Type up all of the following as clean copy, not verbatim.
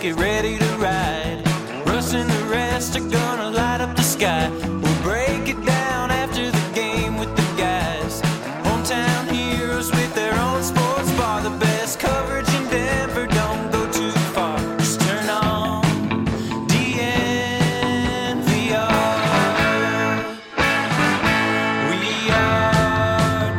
get ready to ride. Russ and the rest are gonna light up the sky. We'll break it down after the game with the guys. Hometown heroes with their own sports bar. The best coverage in Denver, don't go too far. Just turn on DNVR. We are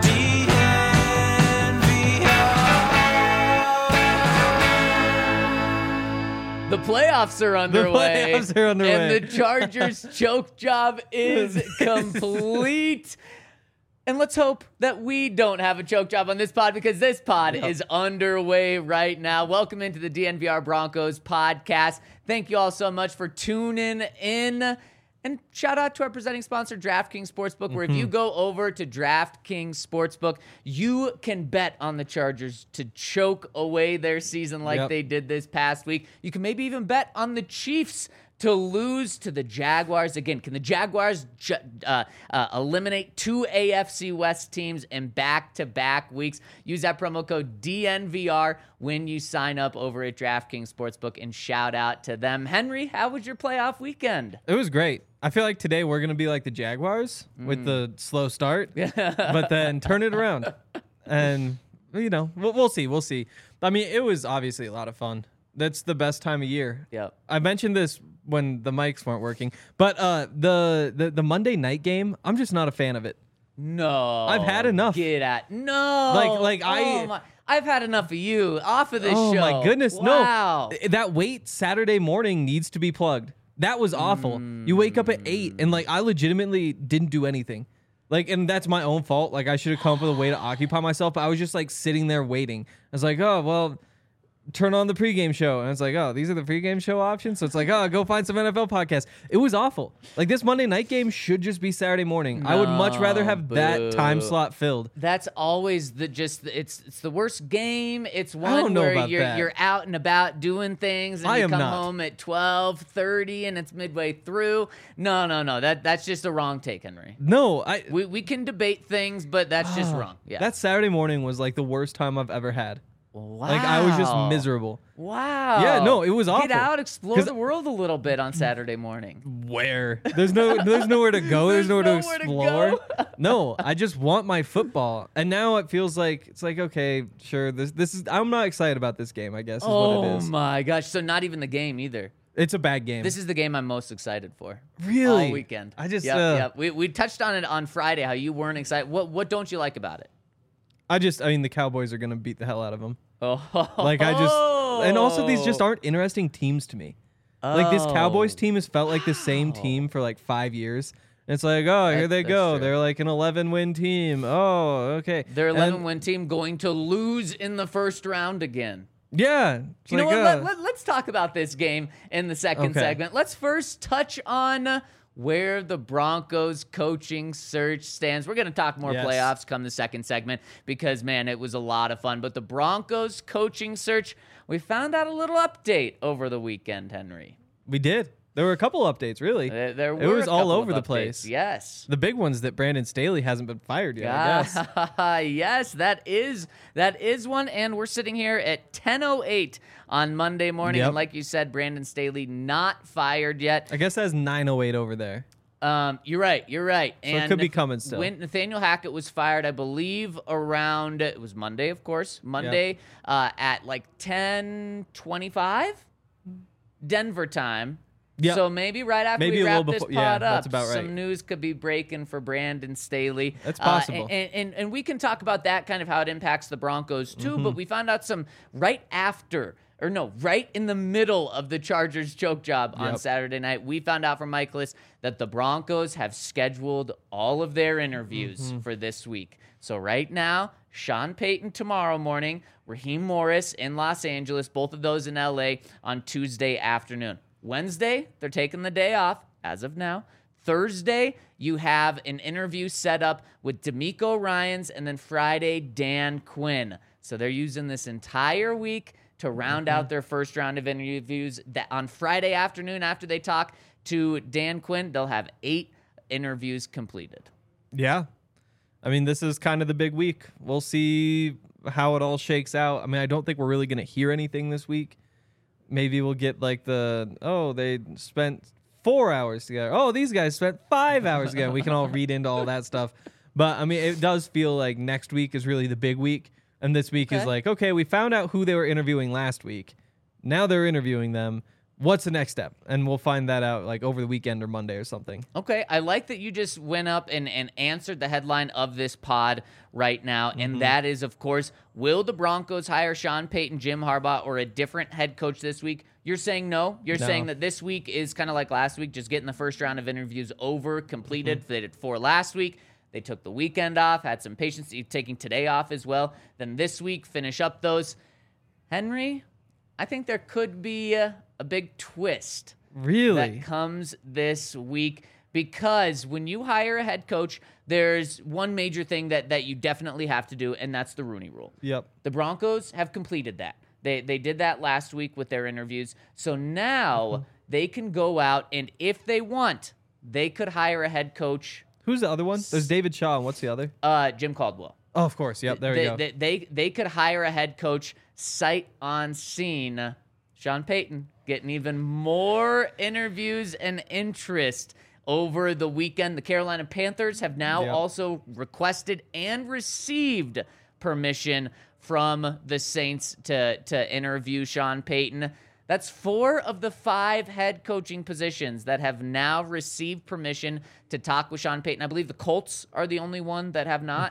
DNVR. The playoffs are underway. And the Chargers' choke job is complete. And let's hope that we don't have a choke job on this pod, because this pod is underway right now. Welcome into the DNVR Broncos podcast. Thank you all so much for tuning in. And shout out to our presenting sponsor, DraftKings Sportsbook, where if you go over to DraftKings Sportsbook, you can bet on the Chargers to choke away their season like they did this past week. You can maybe even bet on the Chiefs to lose to the Jaguars. Again, can the Jaguars eliminate two AFC West teams in back-to-back weeks? Use that promo code DNVR when you sign up over at DraftKings Sportsbook, and shout out to them. Henry, how was your playoff weekend? It was great. I feel like today we're going to be like the Jaguars with the slow start, but then turn it around. And, you know, we'll see. We'll see. I mean, it was obviously a lot of fun. That's the best time of year. Yep. I mentioned this when the mics weren't working, but the Monday night game, I'm just not a fan of it. No. I've had enough. Get at. No. I've had enough of you off of this show. Oh, my goodness. Wow. No. That wait Saturday morning needs to be plugged. That was awful. You wake up at 8, and, like, I legitimately didn't do anything. Like, and that's my own fault. Like, I should have come up with a way to occupy myself, but I was just, like, sitting there waiting. I was like, oh, well, turn on the pregame show. And it's like, oh, these are the pregame show options? So it's like, oh, go find some NFL podcasts. It was awful. Like, this Monday night game should just be Saturday morning. I would much rather have that time slot filled. That's always it's the worst game. It's one where you're out and about doing things, and you come home at 12:30 and it's midway through. No. That's just a wrong take, Henry. No, we can debate things, but that's just wrong. Yeah. That Saturday morning was like the worst time I've ever had. Wow. Like, I was just miserable. Wow. Yeah, no, it was awful. Get out, explore the world a little bit on Saturday morning. Where? There's nowhere to go. There's nowhere to explore. No, I just want my football. And now it feels like, it's like, okay, sure, this is, I'm not excited about this game, I guess, is what it is. Oh my gosh. So not even the game either. It's a bad game. This is the game I'm most excited for. Really? All weekend. I just, Yep. We touched on it on Friday, how you weren't excited. What don't you like about it? I mean, the Cowboys are going to beat the hell out of them. Oh. Like, and also these just aren't interesting teams to me. Like, this Cowboys team has felt like the same team for like 5 years. And it's like, oh, here they go. True. They're like an 11-win team. Oh, okay. They're 11-win team going to lose in the first round again. Yeah. You know what? Let's talk about this game in the second segment. Let's first touch on where the Broncos coaching search stands. We're going to talk more playoffs come the second segment because, man, it was a lot of fun. But the Broncos coaching search, we found out a little update over the weekend, Henry. We did. There were a couple updates, really. It was all over the place. Yes. The big one's that Brandon Staley hasn't been fired yet, I guess. Yes, that is one. And we're sitting here at 10:08 on Monday morning. Yep. And like you said, Brandon Staley not fired yet. I guess that's 9:08 over there. You're right. So it could be coming still. When Nathaniel Hackett was fired, I believe around, it was Monday, of course. Monday at like 10:25 Denver time. Yep. So maybe right after we wrap this pod up, that's about right. Some news could be breaking for Brandon Staley. That's possible. And we can talk about that, kind of how it impacts the Broncos too, but we found out some right in the middle of the Chargers choke job on Saturday night. We found out from Michaelis that the Broncos have scheduled all of their interviews for this week. So right now, Sean Payton tomorrow morning, Raheem Morris in Los Angeles, both of those in LA on Tuesday afternoon. Wednesday, they're taking the day off as of now. Thursday, you have an interview set up with D'Amico Ryans, and then Friday, Dan Quinn. So they're using this entire week to round out their first round of interviews. That on Friday afternoon, after they talk to Dan Quinn, they'll have 8 interviews completed. Yeah. I mean, this is kind of the big week. We'll see how it all shakes out. I mean, I don't think we're really going to hear anything this week. maybe we'll get like they spent 4 hours together. Oh, these guys spent 5 hours together. We can all read into all that stuff. But I mean, it does feel like next week is really the big week. And this week is like, okay, we found out who they were interviewing last week. Now they're interviewing them. What's the next step? And we'll find that out like over the weekend or Monday or something. Okay, I like that you just went up and answered the headline of this pod right now, and that is, of course, will the Broncos hire Sean Payton, Jim Harbaugh, or a different head coach this week? You're saying no? You're saying that this week is kind of like last week, just getting the first round of interviews over, completed. They did 4 last week. They took the weekend off, had some patience, taking today off as well. Then this week, finish up those. Henry, I think there could be a big twist that comes this week, because when you hire a head coach, there's one major thing that you definitely have to do, and that's the Rooney Rule. Yep. The Broncos have completed that. They did that last week with their interviews. So now they can go out, and if they want, they could hire a head coach. Who's the other one? There's David Shaw, and what's the other? Jim Caldwell. Oh, of course. Yep, there we go. They could hire a head coach sight unseen. Sean Payton getting even more interviews and interest over the weekend. The Carolina Panthers have now also requested and received permission from the Saints to interview Sean Payton. That's 4 of the 5 head coaching positions that have now received permission to talk with Sean Payton. I believe the Colts are the only one that have not.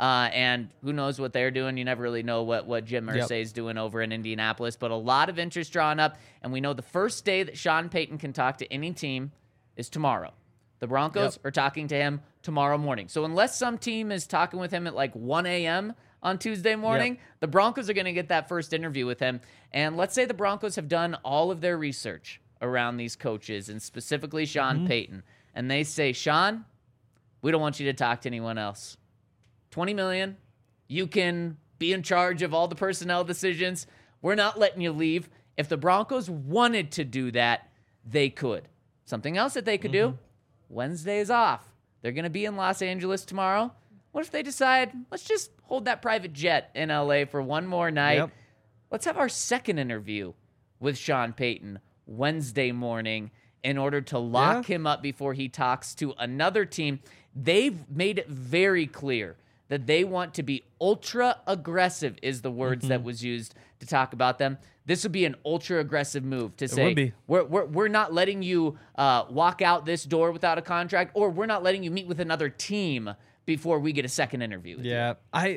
And who knows what they're doing. You never really know what Jim Irsay is doing over in Indianapolis. But a lot of interest drawn up. And we know the first day that Sean Payton can talk to any team is tomorrow. The Broncos are talking to him tomorrow morning. So unless some team is talking with him at like 1 a.m. on Tuesday morning, the Broncos are going to get that first interview with him. And let's say the Broncos have done all of their research around these coaches, and specifically Sean Payton. And they say, Sean, we don't want you to talk to anyone else. $20 million. You can be in charge of all the personnel decisions. We're not letting you leave. If the Broncos wanted to do that, they could. Something else that they could do, Wednesday is off. They're going to be in Los Angeles tomorrow. What if they decide, let's just hold that private jet in LA for one more night? Let's have our second interview with Sean Payton Wednesday morning in order to lock him up before he talks to another team. They've made it very clear that they want to be ultra aggressive, is the words that was used to talk about them. This would be an ultra aggressive move to say, we're not letting you walk out this door without a contract, or we're not letting you meet with another team before we get a second interview with you.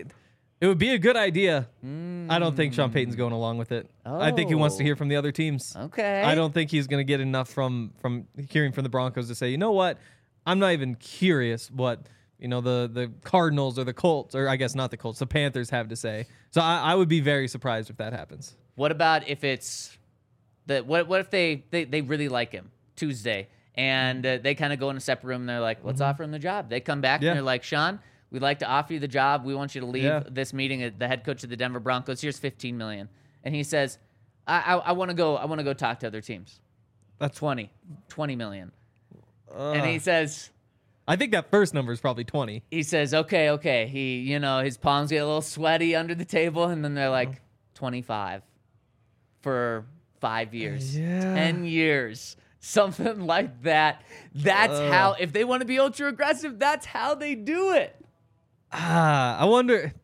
It would be a good idea. I don't think Sean Payton's going along with it. I think he wants to hear from the other teams. Okay. I don't think he's going to get enough from hearing from the Broncos to say, you know what? I'm not even curious what the Cardinals or the Colts, or I guess not the Colts, the Panthers have to say. So I would be very surprised if that happens. What about if it's what if they really like him Tuesday and they kind of go in a separate room and they're like, let's offer him the job. They come back and they're like, Sean, we'd like to offer you the job. We want you to leave this meeting at the head coach of the Denver Broncos. Here's $15 million. And he says, I want to go talk to other teams. That's $20 million. And he says, I think that first number is probably 20. He says, okay. He, his palms get a little sweaty under the table, and then they're like, 25 for 5 years, 10 years, something like that. That's how, if they want to be ultra aggressive, that's how they do it. I wonder,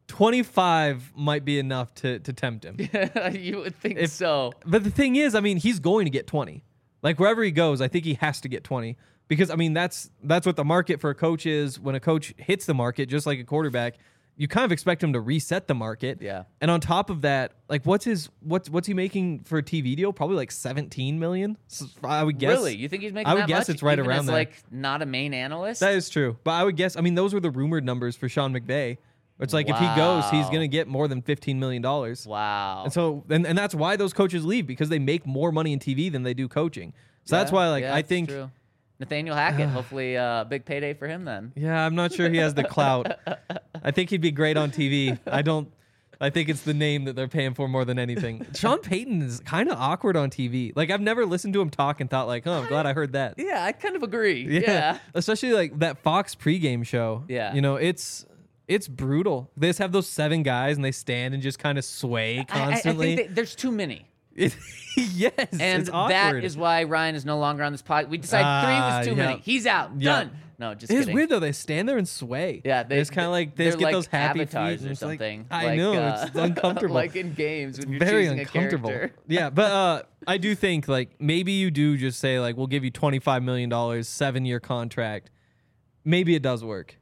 25 might be enough to tempt him. You would think so. But the thing is, he's going to get 20. Like, wherever he goes, I think he has to get 20. Because, that's what the market for a coach is. When a coach hits the market, just like a quarterback, you kind of expect him to reset the market. Yeah. And on top of that, like, what's he making for a TV deal? Probably like $17 million. So I would guess. Really? You think he's making that much? I would guess it's right even around as, there. like, not a main analyst? That is true. But I would guess, those were the rumored numbers for Sean McVay. It's like, if he goes, he's going to get more than $15 million. Wow. And so, and that's why those coaches leave, because they make more money in TV than they do coaching. So that's why, I think. True. Nathaniel Hackett, hopefully big payday for him then. Yeah, I'm not sure he has the clout. I think he'd be great on TV. I think it's the name that they're paying for more than anything. Sean Payton is kind of awkward on TV. Like, I've never listened to him talk and thought like, oh, I'm glad I heard that. Yeah, I kind of agree. Yeah. Especially like that Fox pregame show. Yeah. It's brutal. They just have those 7 guys and they stand and just kind of sway constantly. I think there's too many. Yes, And it's awkward. that is why Ryan is no longer on this podcast. We decided 3 was too many. He's out. Done. No, just It's kidding. weird though. They stand there and sway. Yeah, it's kind of like they just get like those happy avatars feet or and it's like, something. I know it's uncomfortable. Like in games when you're Very choosing uncomfortable. a character. Yeah, but I do think like maybe you do just say like we'll give you $25 million, 7-year contract. Maybe it does work.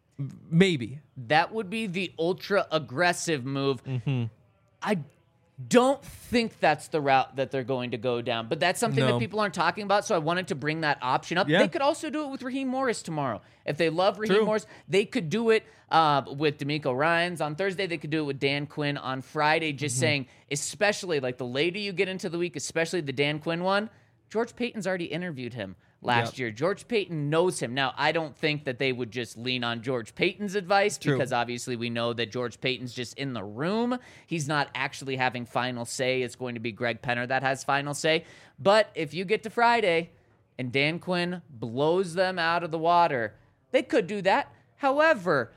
Maybe. That would be the ultra aggressive move. Mm-hmm. I don't think that's the route that they're going to go down, but that's something that No. people aren't talking about, so I wanted to bring that option up. Yeah. They could also do it with Raheem Morris tomorrow. If they love Raheem True. Morris, they could do it with D'Amico Ryans on Thursday. They could do it with Dan Quinn on Friday, just Mm-hmm. saying, especially like the later you get into the week, especially the Dan Quinn one, George Payton's already interviewed him last year. George Payton knows him. Now, I don't think that they would just lean on George Payton's advice because obviously we know that George Payton's just in the room. He's not actually having final say. It's going to be Greg Penner that has final say. But if you get to Friday and Dan Quinn blows them out of the water, they could do that. However,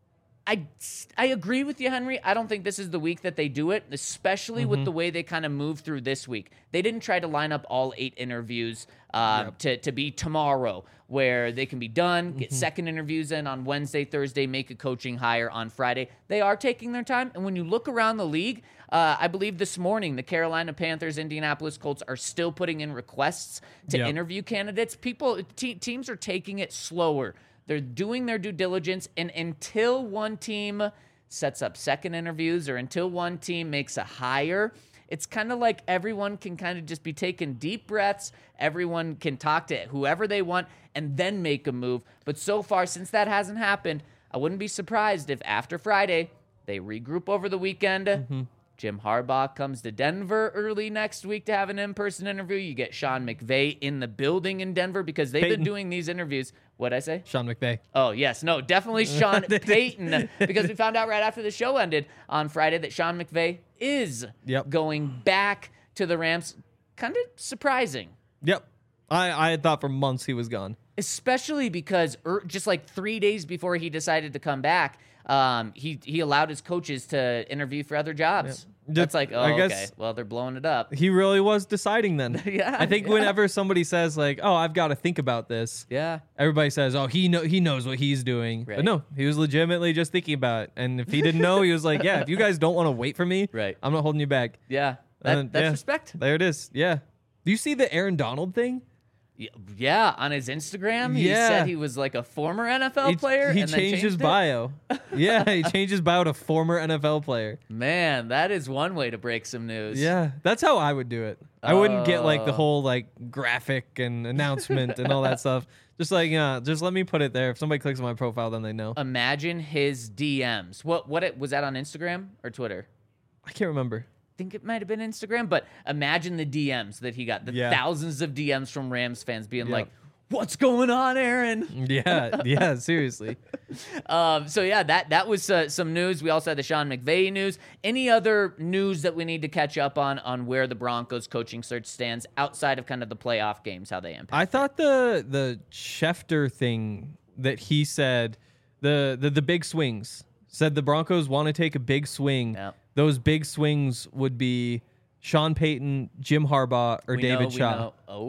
I agree with you, Henry. I don't think this is the week that they do it, especially with the way they kind of move through this week. They didn't try to line up all 8 interviews to be tomorrow, where they can be done, get second interviews in on Wednesday, Thursday, make a coaching hire on Friday. They are taking their time. And when you look around the league, I believe this morning the Carolina Panthers, Indianapolis Colts are still putting in requests to interview candidates. Teams are taking it slower. They're doing their due diligence, and until one team sets up second interviews or until one team makes a hire, it's kind of like everyone can kind of just be taking deep breaths. Everyone can talk to whoever they want and then make a move. But so far, since that hasn't happened, I wouldn't be surprised if after Friday they regroup over the weekend. Jim Harbaugh comes to Denver early next week to have an in-person interview. You get Sean McVay in the building in Denver because they've been doing these interviews. What'd I say? Sean McVay. Oh, yes. No, definitely Sean Payton, because we found out right after the show ended on Friday that Sean McVay is going back to the Rams. Kind of surprising. Yep. I had thought for months he was gone. Especially because just like 3 days before he decided to come back, he allowed his coaches to interview for other jobs. That's like, I guess okay, well, they're blowing it up. He really was deciding then. I think yeah. whenever somebody says like, "Oh, I've got to think about this," everybody says, "Oh, he knows what he's doing." Right. But no, he was legitimately just thinking about it. And if he didn't know, he was like, "Yeah, if you guys don't want to wait for me, I'm not holding you back." Yeah, that's respect. There it is. Yeah. Do you see the Aaron Donald thing? Yeah, on his Instagram, he said he was like a former NFL player. He and then changed his bio. Yeah, he changed his bio to former NFL player. Man, that is one way to break some news. Yeah, that's how I would do it. I wouldn't get like the whole like graphic and announcement and all that stuff. Just like, just let me put it there. If somebody clicks on my profile, then they know. Imagine his DMs. What was that on Instagram or Twitter? I can't remember. Think it might have been Instagram, but imagine the DMs that he got, the thousands of DMs from Rams fans being like, "What's going on, Aaron?" Yeah, seriously. So yeah, that was some news. We also had the Sean McVay news. Any other news that we need to catch up on where the Broncos coaching search stands outside of kind of the playoff games, how they impact? I thought the Schefter thing that he said, the big swings, said the Broncos want to take a big swing. Yep. Those big swings would be Sean Payton, Jim Harbaugh, or David Shaw.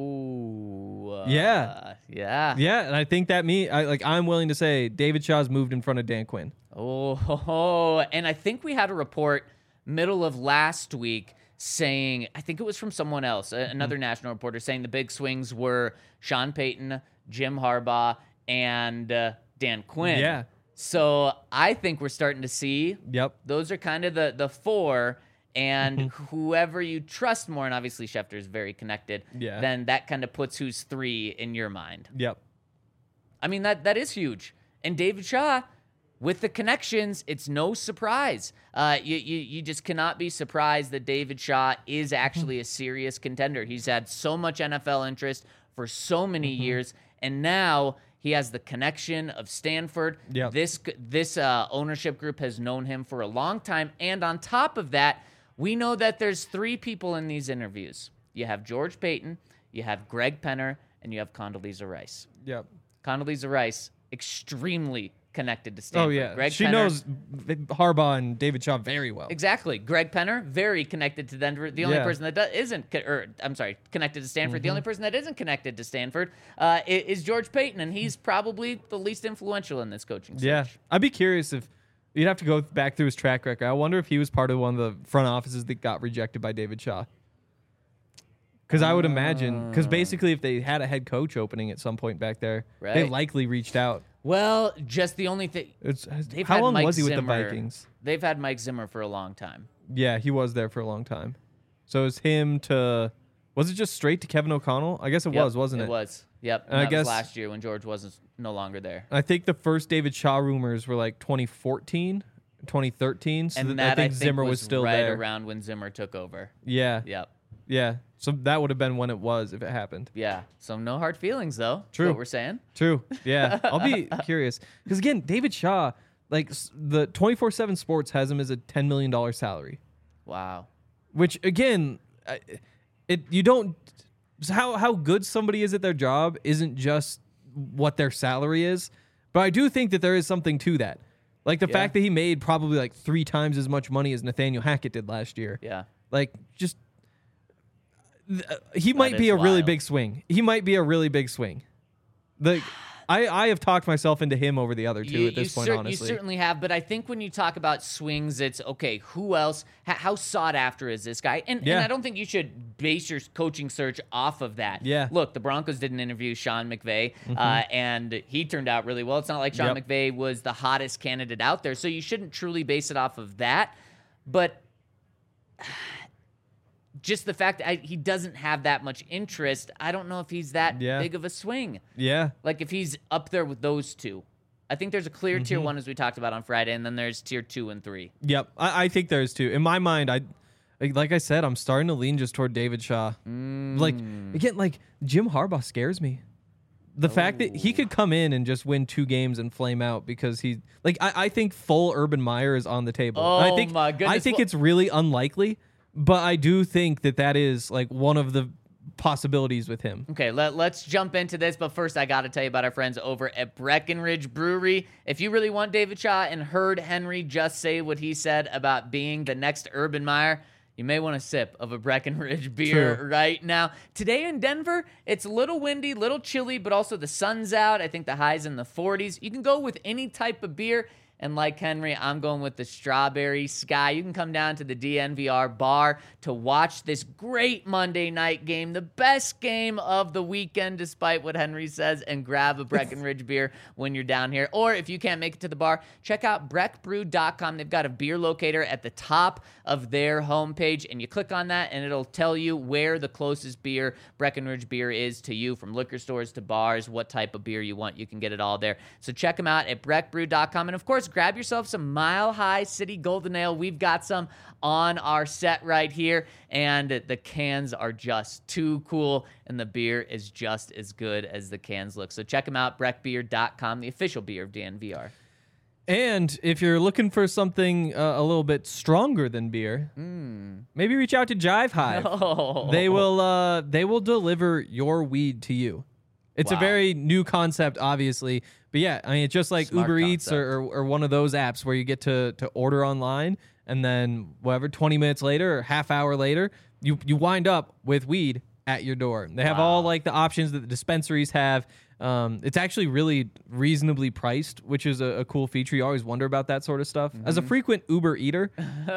Yeah. And I think that I'm willing to say David Shaw's moved in front of Dan Quinn. And I think we had a report middle of last week saying, I think it was from someone else, another national reporter, saying the big swings were Sean Payton, Jim Harbaugh, and Dan Quinn. Yeah. So I think we're starting to see those are kind of the 4, and whoever you trust more, and obviously Schefter is very connected, then that kind of puts who's 3 in your mind. Yep. I mean, that is huge. And David Shaw, with the connections, it's no surprise. You just cannot be surprised that David Shaw is actually a serious contender. He's had so much NFL interest for so many years, and now he has the connection of Stanford. Yep. This ownership group has known him for a long time. And on top of that, we know that there's 3 people in these interviews. You have George Payton, you have Greg Penner, and you have Condoleezza Rice. Yep. Condoleezza Rice, extremely connected to Stanford. Oh, yeah. Greg She Penner, knows Harbaugh and David Shaw very well. Exactly. Greg Penner, very connected to Denver. The only person that connected to Stanford. The only person that isn't connected to Stanford is George Payton, and he's probably the least influential in this coaching search. Yeah. I'd be curious if you'd have to go back through his track record. I wonder if he was part of one of the front offices that got rejected by David Shaw. Because I would imagine, because basically if they had a head coach opening at some point back there, they likely reached out. Well, just the only thing. How long was he with the Vikings? They've had Mike Zimmer for a long time. Yeah, he was there for a long time. So it was him to... Was it just straight to Kevin O'Connell? I guess it was, wasn't it? It was. Yep. And I guess was last year when George was no longer there. I think the first David Shaw rumors were like 2014, 2013. So and I think Zimmer was still right there. Around when Zimmer took over. Yeah. Yep. Yeah. So that would have been when it was if it happened. Yeah. So no hard feelings, though. True. Is what we're saying. True. Yeah. I'll be curious. Because, again, David Shaw, like, the 24/7 Sports has him as a $10 million salary. Wow. Which, again, you don't... How good somebody is at their job isn't just what their salary is. But I do think that there is something to that. Like, the fact that he made probably, like, 3 times as much money as Nathaniel Hackett did last year. Yeah. Like, just... he might be a really big swing. He might be a really big swing. I have talked myself into him over the other two at this point, honestly. You certainly have, but I think when you talk about swings, it's, okay, who else? How sought after is this guy? And I don't think you should base your coaching search off of that. Yeah. Look, the Broncos didn't interview Sean McVay, and he turned out really well. It's not like Sean McVay was the hottest candidate out there, so you shouldn't truly base it off of that. But... just the fact that he doesn't have that much interest, I don't know if he's that big of a swing. Yeah. Like, if he's up there with those two. I think there's a clear tier 1, as we talked about on Friday, and then there's tier 2 and 3. Yep. I think there's 2. In my mind, like I said, I'm starting to lean just toward David Shaw. Like, again, like, Jim Harbaugh scares me. The fact that he could come in and just win 2 games and flame out because he... Like, I think full Urban Meyer is on the table. Oh, my goodness. I think it's really unlikely. But I do think that is, like, one of the possibilities with him. Okay, let's jump into this. But first, I got to tell you about our friends over at Breckenridge Brewery. If you really want David Shaw and heard Henry just say what he said about being the next Urban Meyer, you may want a sip of a Breckenridge beer right now. Today in Denver, it's a little windy, little chilly, but also the sun's out. I think the high's in the 40s. You can go with any type of beer. And like Henry, I'm going with the Strawberry Sky. You can come down to the DNVR bar to watch this great Monday night game, the best game of the weekend, despite what Henry says, and grab a Breckenridge beer when you're down here. Or if you can't make it to the bar, check out breckbrew.com. They've got a beer locator at the top of their homepage, and you click on that, and it'll tell you where the closest Breckenridge beer is to you, from liquor stores to bars, what type of beer you want. You can get it all there. So check them out at breckbrew.com. And of course, grab yourself some Mile High City Golden Ale. We've got some on our set right here, and the cans are just too cool, and the beer is just as good as the cans look. So check them out, breckbeer.com, the official beer of DNVR. And if you're looking for something a little bit stronger than beer, maybe reach out to Jive Hive. No. They will deliver your weed to you. It's a very new concept, obviously. But yeah, I mean, it's just like Smart Uber concept. Eats or one of those apps where you get to order online, and then 20 minutes later or half hour later, you wind up with weed at your door. They have all like the options that the dispensaries have. It's actually really reasonably priced, which is a cool feature. You always wonder about that sort of stuff. As a frequent Uber eater,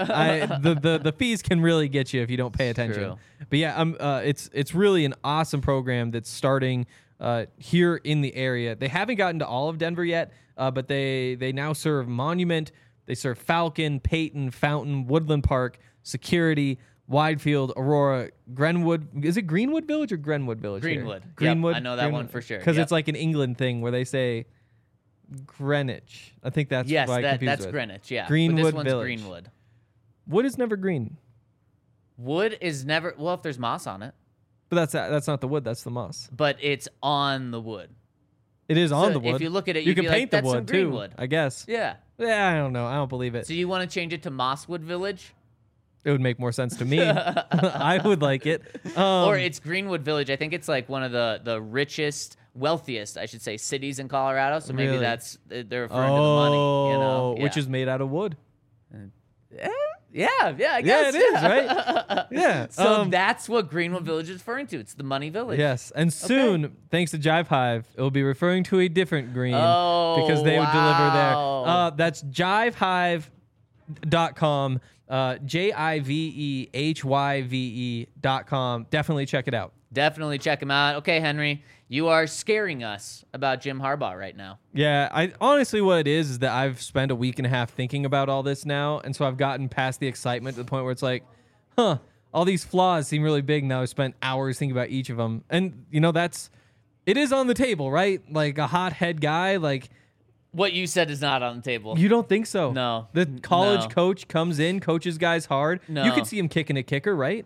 the fees can really get you if you don't pay attention. True. But yeah, it's really an awesome program that's starting here in the area. They haven't gotten to all of Denver yet, but they now serve Monument. They serve Falcon, Peyton, Fountain, Woodland Park, Security, Widefield, Aurora, Grenwood. Is it Greenwood Village or Grenwood Village? Greenwood. Here? Greenwood. Yep, I know that one for sure. Because it's like an England thing where they say Greenwich. I think that's yes, what I confused that's with. Greenwich. Yeah, Greenwood but this one's Village. Greenwood. Wood is never green, Wood is never if there's moss on it, but that's not the wood. That's the moss. but it's on the wood. It is on So the wood. if you look at it, you you'd can be paint like, the "That's some wood too. Greenwood." I guess. Yeah. Yeah, I don't know. I don't believe it. So you want to change it to Mosswood Village? It would make more sense to me. I would like it. Or it's Greenwood Village. I think it's like one of the richest wealthiest, I should say, cities in Colorado. So maybe Really? they're referring to the money, you know, which is made out of wood. Yeah, I guess. Yeah, it is, right? Yeah. So that's what Greenwood Village is referring to. It's the money village. Yes, and soon, thanks to Jive Hive, it will be referring to a different green because they would deliver there. That's jivehive.com, JIVEHYVE.com. Definitely check it out. Definitely check him out. Okay, Henry, you are scaring us about Jim Harbaugh right now. Yeah, I honestly, what it is that I've spent a week and a half thinking about all this now, and so I've gotten past the excitement to the point where it's like, all these flaws seem really big. Now I've spent hours thinking about each of them, and you know it is on the table, right? Like a hothead guy, like. What you said is not on the table. You don't think so? No. The college coach comes in, coaches guys hard. No. You could see him kicking a kicker, right?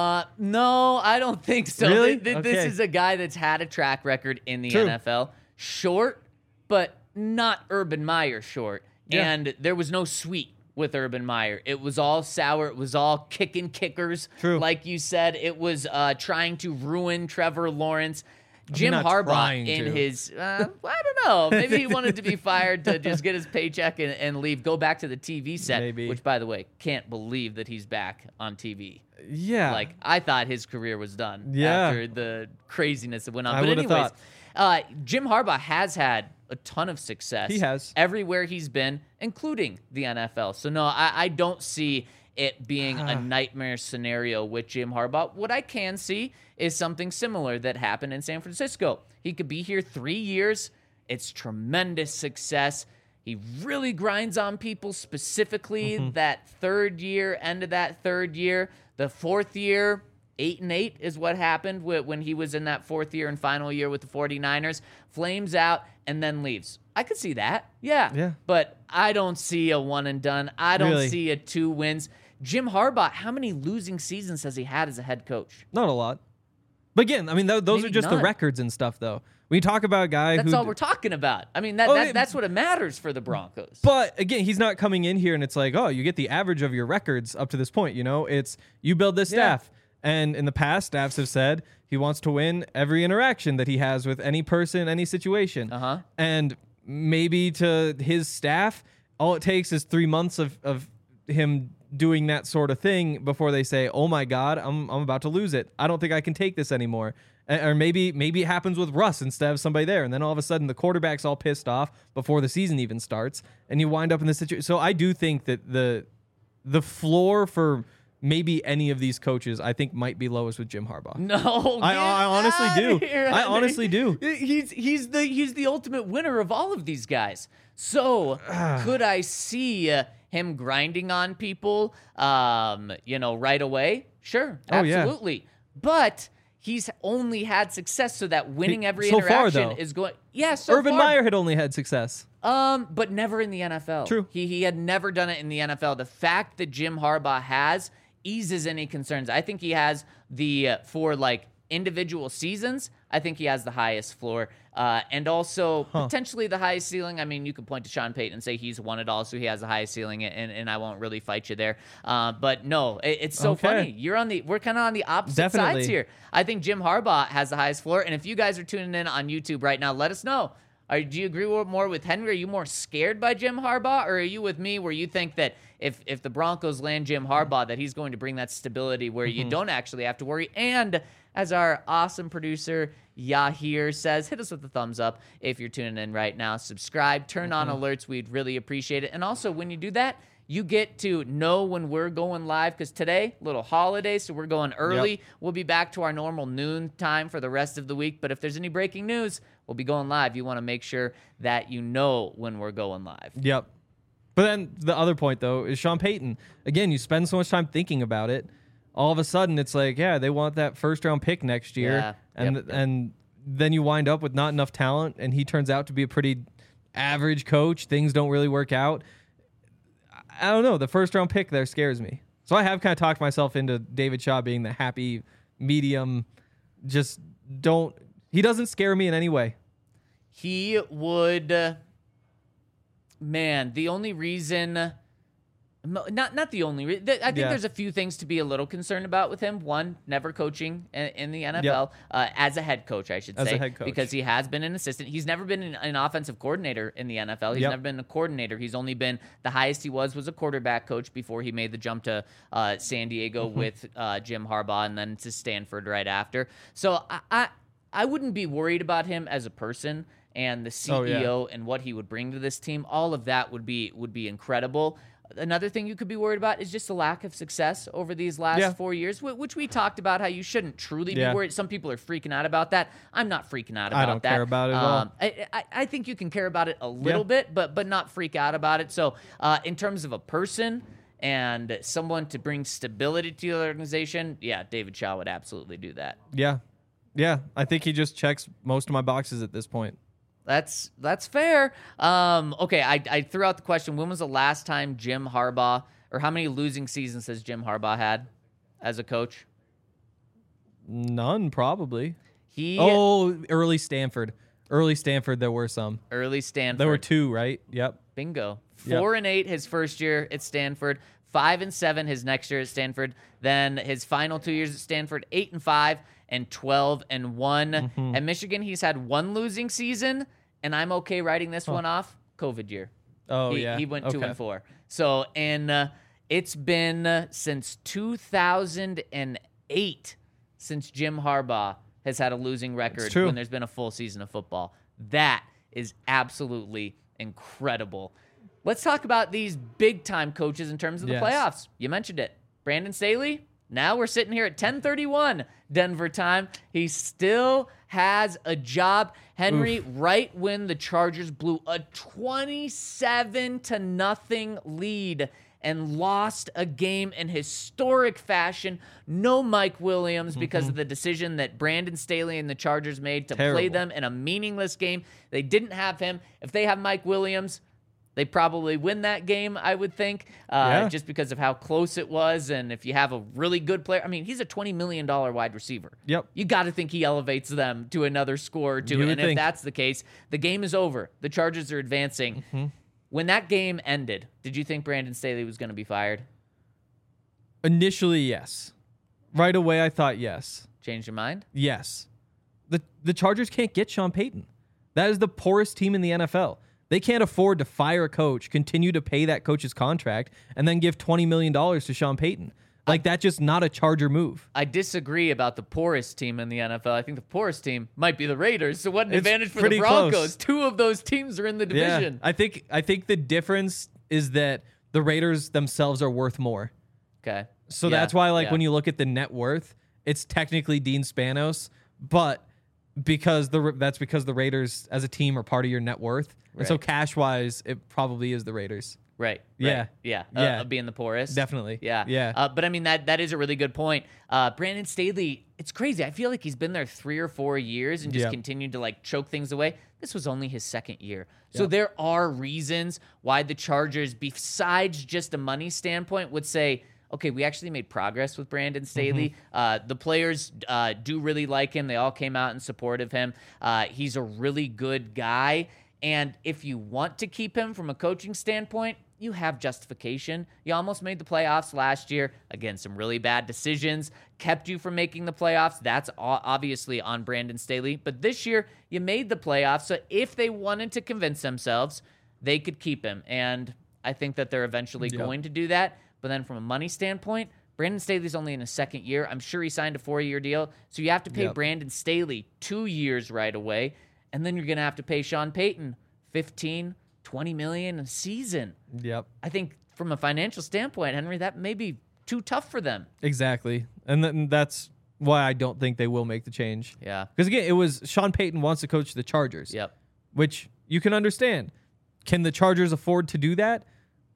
No, I don't think so. Really? This is a guy that's had a track record in the True. NFL. Short, but not Urban Meyer short. Yeah. And there was no sweet with Urban Meyer. It was all sour. It was all kicking kickers. True. Like you said, it was trying to ruin Trevor Lawrence. Jim not Harbaugh trying in to. his, I don't know. Maybe he wanted to be fired to just get his paycheck and leave, go back to the TV set. Maybe. Which, by the way, can't believe that he's back on TV. Yeah. Like, I thought his career was done Yeah. after the craziness that went on. I But would've anyways, thought. Jim Harbaugh has had a ton of success. He has. Everywhere he's been, including the NFL. So, no, I don't see it being a nightmare scenario with Jim Harbaugh. What I can see is something similar that happened in San Francisco. He could be here 3 years. It's tremendous success. He really grinds on people, specifically that third year, end of that third year. The fourth year, 8-8 is what happened when he was in that fourth year and final year with the 49ers. Flames out and then leaves. I could see that. Yeah. But I don't see a one and done. I don't Really? see a 2 wins. Jim Harbaugh, how many losing seasons has he had as a head coach? Not a lot. But again, I mean, those Maybe are just none. the records and stuff, though. We talk about a guy That's who. all we're talking about. I mean, Oh, that's what it matters for the Broncos. But again, he's not coming in here and it's like, oh, you get the average of your records up to this point. You know, it's you build this staff. And in the past, staffs have said he wants to win every interaction that he has with any person, any situation. And maybe to his staff, all it takes is 3 months of him doing that sort of thing before they say, oh my God, I'm about to lose it. I don't think I can take this anymore. Or maybe it happens with Russ instead of somebody there. And then all of a sudden the quarterback's all pissed off before the season even starts. And you wind up in this situation. So I do think that the floor for maybe any of these coaches, I think might be lowest with Jim Harbaugh. No, I honestly do. Here, I honestly do. He's the ultimate winner of all of these guys. So could I see him grinding on people, right away? Sure, absolutely. Yeah. But he's only had success, so that winning every so far, interaction though. is going. Yeah, so Urban far. Meyer had only had success. But never in the NFL. True. He had never done it in the NFL. The fact that Jim Harbaugh has eases any concerns. I think he has for like individual seasons, I think he has the highest floor. And also potentially the highest ceiling. I mean, you could point to Sean Payton and say he's won it all, so he has the highest ceiling, and I won't really fight you there. But no, it's so funny. We're kind of on the opposite sides here. I think Jim Harbaugh has the highest floor, and if you guys are tuning in on YouTube right now, let us know. Do you agree more with Henry? Are you more scared by Jim Harbaugh, or are you with me where you think that if the Broncos land Jim Harbaugh, that he's going to bring that stability where you don't actually have to worry? And as our awesome producer Yahir says, hit us with a thumbs up if you're tuning in right now. Subscribe, turn on alerts. We'd really appreciate it. And also, when you do that, you get to know when we're going live, because today, little holiday, so we're going early. Yep. We'll be back to our normal noon time for the rest of the week. But if there's any breaking news, we'll be going live. You want to make sure that you know when we're going live. Yep. But then the other point, though, is Sean Payton. Again, you spend so much time thinking about it. All of a sudden, it's like, yeah, they want that first-round pick next year. Yeah. And then you wind up with not enough talent, and he turns out to be a pretty average coach. Things don't really work out. I don't know. The first-round pick there scares me. So I have kind of talked myself into David Shaw being the happy medium. He doesn't scare me in any way. He would, the only reason Not the only. I think there's a few things to be a little concerned about with him. One, never coaching in the NFL as a head coach, I should say, as a head coach. because he has been an assistant. He's never been an offensive coordinator in the NFL. He's never been a coordinator. He's only been the highest he was a quarterback coach before he made the jump to San Diego with Jim Harbaugh and then to Stanford right after. So I wouldn't be worried about him as a person and the CEO and what he would bring to this team. All of that would be incredible. Another thing you could be worried about is just the lack of success over these last 4 years, which we talked about how you shouldn't truly be worried. Some people are freaking out about that. I'm not freaking out about that. I don't care about it at all. I think you can care about it a little bit, but not freak out about it. So in terms of a person and someone to bring stability to the organization, David Shaw would absolutely do that. Yeah. I think he just checks most of my boxes at this point. That's fair. Okay, I threw out the question, when was the last time Jim Harbaugh, or how many losing seasons has Jim Harbaugh had as a coach? None, probably. Early Stanford. Early Stanford, there were some. Early Stanford. There were 2, right? Yep. Bingo. 4-8 his first year at Stanford. 5-7 his next year at Stanford. Then his final 2 years at Stanford, 8-5 and 12-1. At Michigan, he's had 1 losing season, and I'm okay writing this one off. COVID year. He went 2-4. So, and it's been since 2008 since Jim Harbaugh has had a losing record when there's been a full season of football. That is absolutely incredible. Let's talk about these big-time coaches in terms of the playoffs. You mentioned it. Brandon Staley, now we're sitting here at 10:31 Denver time. He still has a job. Henry, right when the Chargers blew a 27-0 lead and lost a game in historic fashion. No Mike Williams because of the decision that Brandon Staley and the Chargers made to play them in a meaningless game. They didn't have him. If they have Mike Williams, they probably win that game, I would think, just because of how close it was. And if you have a really good player, I mean, he's a $20 million wide receiver. Yep. You got to think he elevates them to another score or two. And if that's the case, the game is over. The Chargers are advancing. When that game ended, did you think Brandon Staley was going to be fired? Initially, yes. Right away, I thought yes. Changed your mind? Yes. The Chargers can't get Sean Payton. That is the poorest team in the NFL. They can't afford to fire a coach, continue to pay that coach's contract, and then give $20 million to Sean Payton. Like, that's just not a Charger move. I disagree about the poorest team in the NFL. I think the poorest team might be the Raiders. So what an advantage for the Broncos. Close. 2 of those teams are in the division. Yeah, I think the difference is that the Raiders themselves are worth more. Okay. So that's why, when you look at the net worth, it's technically Dean Spanos, but that's because the Raiders as a team are part of your net worth. Right. And so cash-wise, it probably is the Raiders. Right. Yeah. Being the poorest. Definitely. Yeah. But I mean, that is a really good point. Brandon Staley, it's crazy. I feel like he's been there 3 or 4 years and just continued to choke things away. This was only his second year. So there are reasons why the Chargers, besides just a money standpoint, would say, okay, we actually made progress with Brandon Staley. The players do really like him. They all came out in support of him. He's a really good guy. And if you want to keep him from a coaching standpoint, you have justification. You almost made the playoffs last year. Again, some really bad decisions kept you from making the playoffs. That's obviously on Brandon Staley. But this year, you made the playoffs. So if they wanted to convince themselves, they could keep him. And I think that they're eventually going to do that. But then from a money standpoint, Brandon Staley's only in his second year. I'm sure he signed a 4-year deal. So you have to pay Brandon Staley 2 years right away. And then you're going to have to pay Sean Payton $15, $20 million a season. Yep. I think from a financial standpoint, Henry, that may be too tough for them. Exactly. And that's why I don't think they will make the change. Yeah. Because, again, it was Sean Payton wants to coach the Chargers. Yep. Which you can understand. Can the Chargers afford to do that?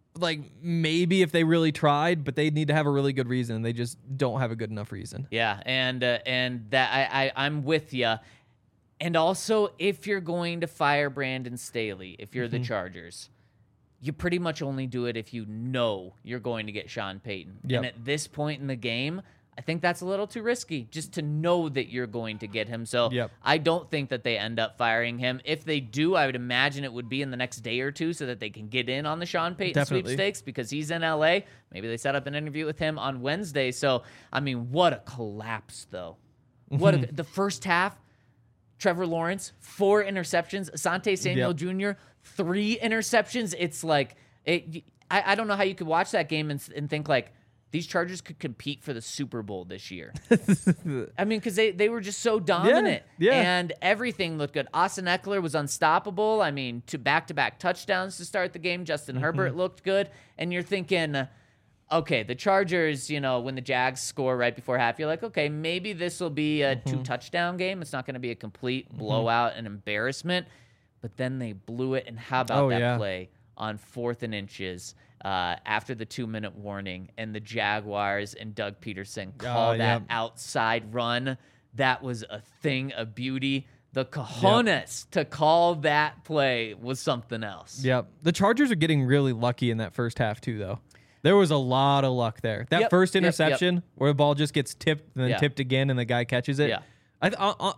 Maybe if they really tried, but they need to have a really good reason, and they just don't have a good enough reason. Yeah, and that I'm with you. And also, if you're going to fire Brandon Staley, if you're the Chargers, you pretty much only do it if you know you're going to get Sean Payton. Yep. And at this point in the game, I think that's a little too risky just to know that you're going to get him. So Yep. I don't think that they end up firing him. If they do, I would imagine it would be in the next day or two so that they can get in on the Sean Payton Definitely. sweepstakes because he's in LA. Maybe they set up an interview with him on Wednesday. So, I mean, what a collapse, though. The first half, Trevor Lawrence, 4 interceptions. Asante Samuel Jr., 3 interceptions. It's like, I don't know how you could watch that game and think like, these Chargers could compete for the Super Bowl this year. I mean, because they were just so dominant. Yeah. And everything looked good. Austin Eckler was unstoppable. I mean, to back-to-back touchdowns to start the game. Justin Herbert looked good. And you're thinking, okay, the Chargers, when the Jags score right before half, you're like, okay, maybe this will be a 2-touchdown game. It's not going to be a complete blowout and embarrassment. But then they blew it. And how about play on 4th and inches? After the 2-minute warning, and the Jaguars and Doug Peterson call that outside run. That was a thing of beauty. The cojones to call that play was something else. Yep. The Chargers are getting really lucky in that first half, too, though. There was a lot of luck there. That first interception where the ball just gets tipped and then tipped again and the guy catches it. Yeah.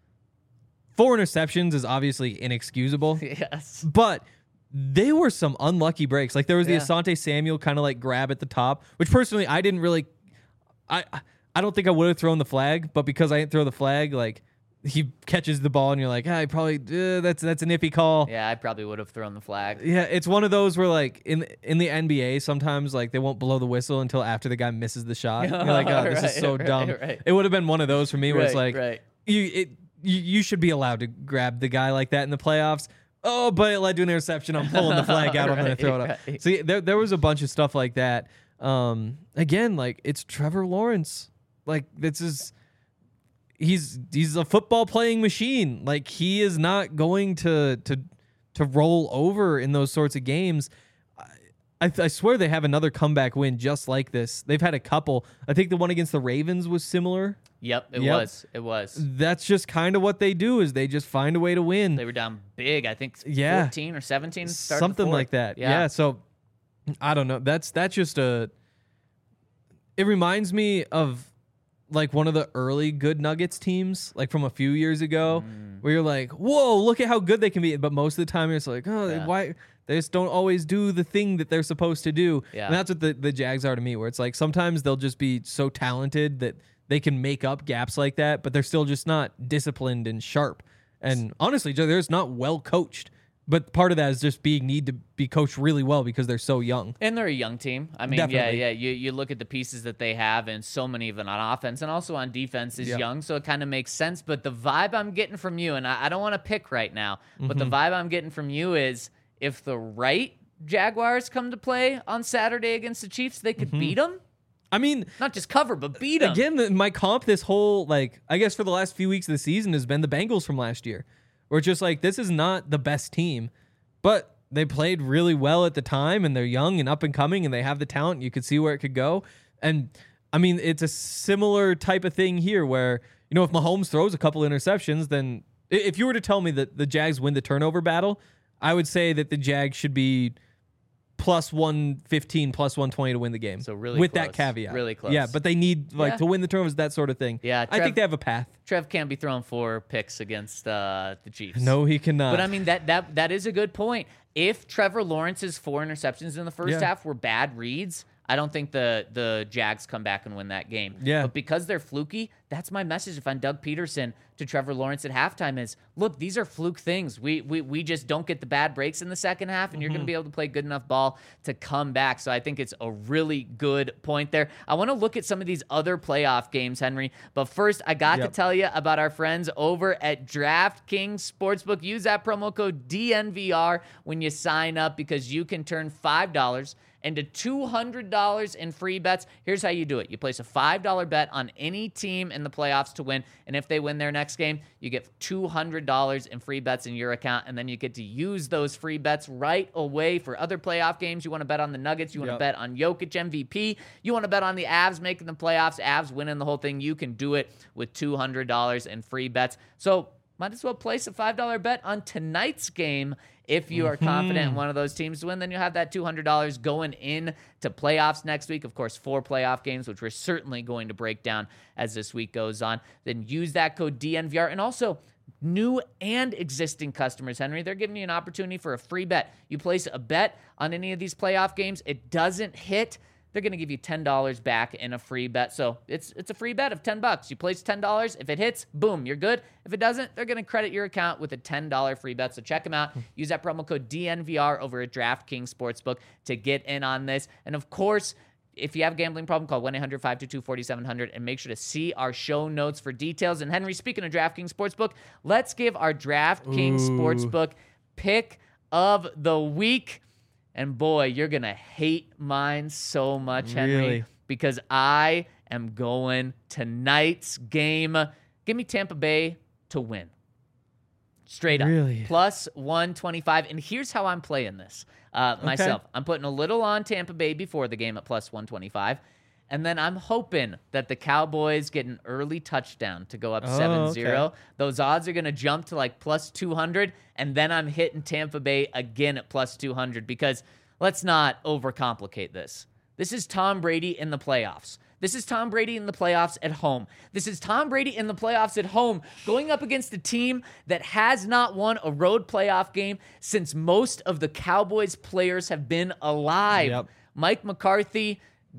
4 interceptions is obviously inexcusable. Yes. But they were some unlucky breaks. Like there was the Asante Samuel kind of like grab at the top, which personally I didn't really. I don't think I would have thrown the flag, but because I didn't throw the flag, like he catches the ball and you're like, I probably that's an iffy call. Yeah, I probably would have thrown the flag. Yeah, it's one of those where like in the NBA sometimes like they won't blow the whistle until after the guy misses the shot. You're like, oh, this is so dumb. Right. It would have been one of those for me where it's like right. you should be allowed to grab the guy like that in the playoffs. Oh, but it led to an interception. I'm pulling the flag out. I'm going to throw it up. Right. See, there was a bunch of stuff like that. Again, like it's Trevor Lawrence. Like he's a football playing machine. Like he is not going to roll over in those sorts of games. I swear they have another comeback win just like this. They've had a couple. I think the one against the Ravens was similar. Yep, it was. It was. That's just kind of what they do is they just find a way to win. They were down big. I think 14 or 17. Something like that. Yeah. So I don't know. That's just it reminds me of like one of the early good Nuggets teams, like from a few years ago, where you're like, whoa, look at how good they can be. But most of the time you're just like, why? They just don't always do the thing that they're supposed to do. Yeah. And that's what the Jags are to me, where it's like sometimes they'll just be so talented that they can make up gaps like that, but they're still just not disciplined and sharp. And honestly, they're just not well coached. But part of that is just need to be coached really well because they're so young. And they're a young team. I mean, Definitely. You look at the pieces that they have, and so many of them on offense and also on defense is young, so it kind of makes sense. But the vibe I'm getting from you, and I don't want to pick right now, but the vibe I'm getting from you is if the right Jaguars come to play on Saturday against the Chiefs, they could beat them. I mean, not just cover, but beat them. Again, my comp this whole, like, I guess for the last few weeks of the season has been the Bengals from last year. Where it's just like, this is not the best team, but they played really well at the time, and they're young and up and coming, and they have the talent. You could see where it could go. And, I mean, it's a similar type of thing here where, if Mahomes throws a couple interceptions, then if you were to tell me that the Jags win the turnover battle, I would say that the Jags should be plus 115, plus 120 to win the game. So really with close. that caveat. Really close. Yeah, but they need to win the turnovers, that sort of thing. Yeah, I think they have a path. Trev can't be throwing 4 picks against the Chiefs. No, he cannot. But I mean that is a good point. If Trevor Lawrence's 4 interceptions in the first half were bad reads, I don't think the Jags come back and win that game. Yeah. But because they're fluky, that's my message if I'm Doug Peterson to Trevor Lawrence at halftime is, look, these are fluke things. We just don't get the bad breaks in the second half, and you're going to be able to play good enough ball to come back. So I think it's a really good point there. I want to look at some of these other playoff games, Henry. But first, I got to tell you about our friends over at DraftKings Sportsbook. Use that promo code DNVR when you sign up because you can turn $5 into $200 in free bets. Here's how you do it. You place a $5 bet on any team in the playoffs to win, and if they win their next game, you get $200 in free bets in your account, and then you get to use those free bets right away for other playoff games. You want to bet on the Nuggets. You want to bet on Jokic MVP. You want to bet on the Avs making the playoffs, Avs winning the whole thing. You can do it with $200 in free bets. So might as well place a $5 bet on tonight's game. If you are confident in one of those teams to win, then you'll have that $200 going in to playoffs next week. Of course, 4 playoff games, which we're certainly going to break down as this week goes on. Then use that code DNVR. And also, new and existing customers, Henry, they're giving you an opportunity for a free bet. You place a bet on any of these playoff games, it doesn't hit, they're going to give you $10 back in a free bet. So it's a free bet of $10. You place $10. If it hits, boom, you're good. If it doesn't, they're going to credit your account with a $10 free bet. So check them out. Use that promo code DNVR over at DraftKings Sportsbook to get in on this. And of course, if you have a gambling problem, call 1-800-522-4700 and make sure to see our show notes for details. And Henry, speaking of DraftKings Sportsbook, let's give our DraftKings Sportsbook pick of the week. And boy, you're going to hate mine so much, Henry, really? Because I am going tonight's game. Give me Tampa Bay to win. Straight up. Really? Plus 125. And here's how I'm playing this myself. I'm putting a little on Tampa Bay before the game at plus 125. And then I'm hoping that the Cowboys get an early touchdown to go up 7-0. Okay. Those odds are going to jump to like plus 200. And then I'm hitting Tampa Bay again at plus 200 because let's not overcomplicate this. This is Tom Brady in the playoffs. This is Tom Brady in the playoffs at home. This is Tom Brady in the playoffs at home going up against a team that has not won a road playoff game since most of the Cowboys players have been alive. Yep. Mike McCarthy,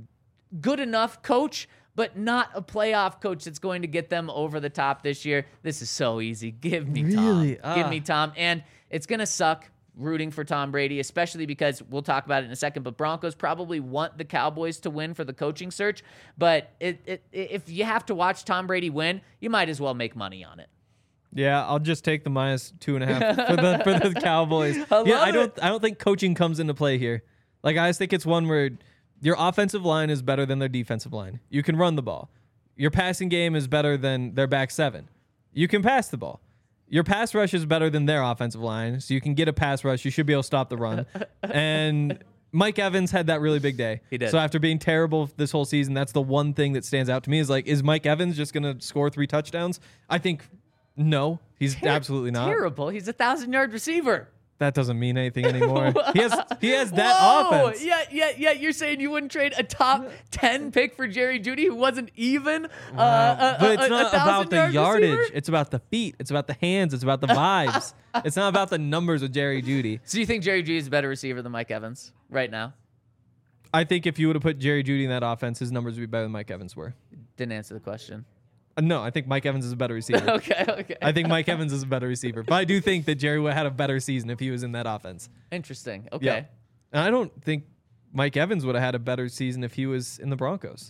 good enough coach, but not a playoff coach that's going to get them over the top this year. This is so easy. Give me Really? Tom. Give me Tom. And it's going to suck rooting for Tom Brady, especially because we'll talk about it in a second, but Broncos probably want the Cowboys to win for the coaching search. But if you have to watch Tom Brady win, you might as well make money on it. Yeah, I'll just take the minus 2.5 for the Cowboys. I don't think coaching comes into play here. Like, I just think it's one where your offensive line is better than their defensive line. You can run the ball. Your passing game is better than their back seven. You can pass the ball. Your pass rush is better than their offensive line, so you can get a pass rush. You should be able to stop the run. And Mike Evans had that really big day. He did. So after being terrible this whole season, that's the one thing that stands out to me is like, is Mike Evans just going to score 3 touchdowns? I think no, he's absolutely not. Terrible. He's a 1,000-yard receiver. That doesn't mean anything anymore. he has that Whoa! offense. Yeah. You're saying you wouldn't trade a top 10 pick for Jerry Jeudy, who wasn't even But it's not about the yardage. Receiver? It's about the feet. It's about the hands. It's about the vibes. It's not about the numbers with Jerry Jeudy. So you think Jerry Jeudy is a better receiver than Mike Evans right now? I think if you would have put Jerry Jeudy in that offense, his numbers would be better than Mike Evans were. Didn't answer the question. No, I think Mike Evans is a better receiver. Okay. I think Mike Evans is a better receiver. But I do think that Jerry would have had a better season if he was in that offense. Interesting. Okay. Yeah. And I don't think Mike Evans would have had a better season if he was in the Broncos.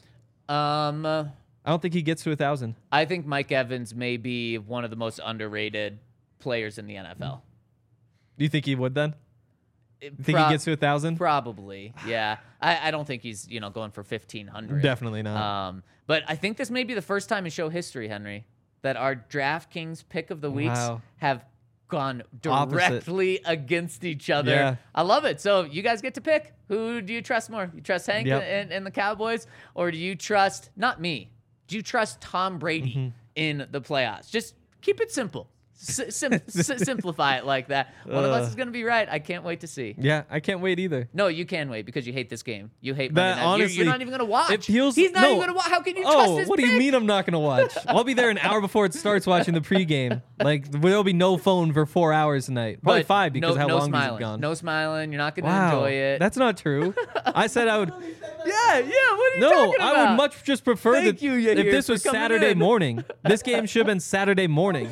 I don't think he gets to 1,000. I think Mike Evans may be one of the most underrated players in the NFL. Do you think he would then? You think he gets to 1,000? Probably, yeah. I don't think he's going for 1,500. Definitely not. But I think this may be the first time in show history, Henry, that our DraftKings pick of the weeks have gone directly against each other. Yeah. I love it. So you guys get to pick. Who do you trust more? You trust Hank and the Cowboys, or do you trust not me? Do you trust Tom Brady in the playoffs? Just keep it simple. Simplify it like that. One of us is going to be right. I can't wait to see. Yeah, I can't wait either. No, you can wait because you hate this game. You hate That, Monday Night. honestly, You're not even going to watch. He's not even going to watch. How can you trust his what pick? do you mean I'm not going to watch? I'll be there an hour before it starts watching the pregame. Like, there'll be no phone for 4 hours tonight. Probably But 5 because how long these smiling. have gone. No smiling. You're not going to enjoy it. That's not true. I said I would. Yeah. What are you No, talking about? I would much just prefer Thank that you, if Yahir, this for was coming Saturday in. morning. This game should have been Saturday morning.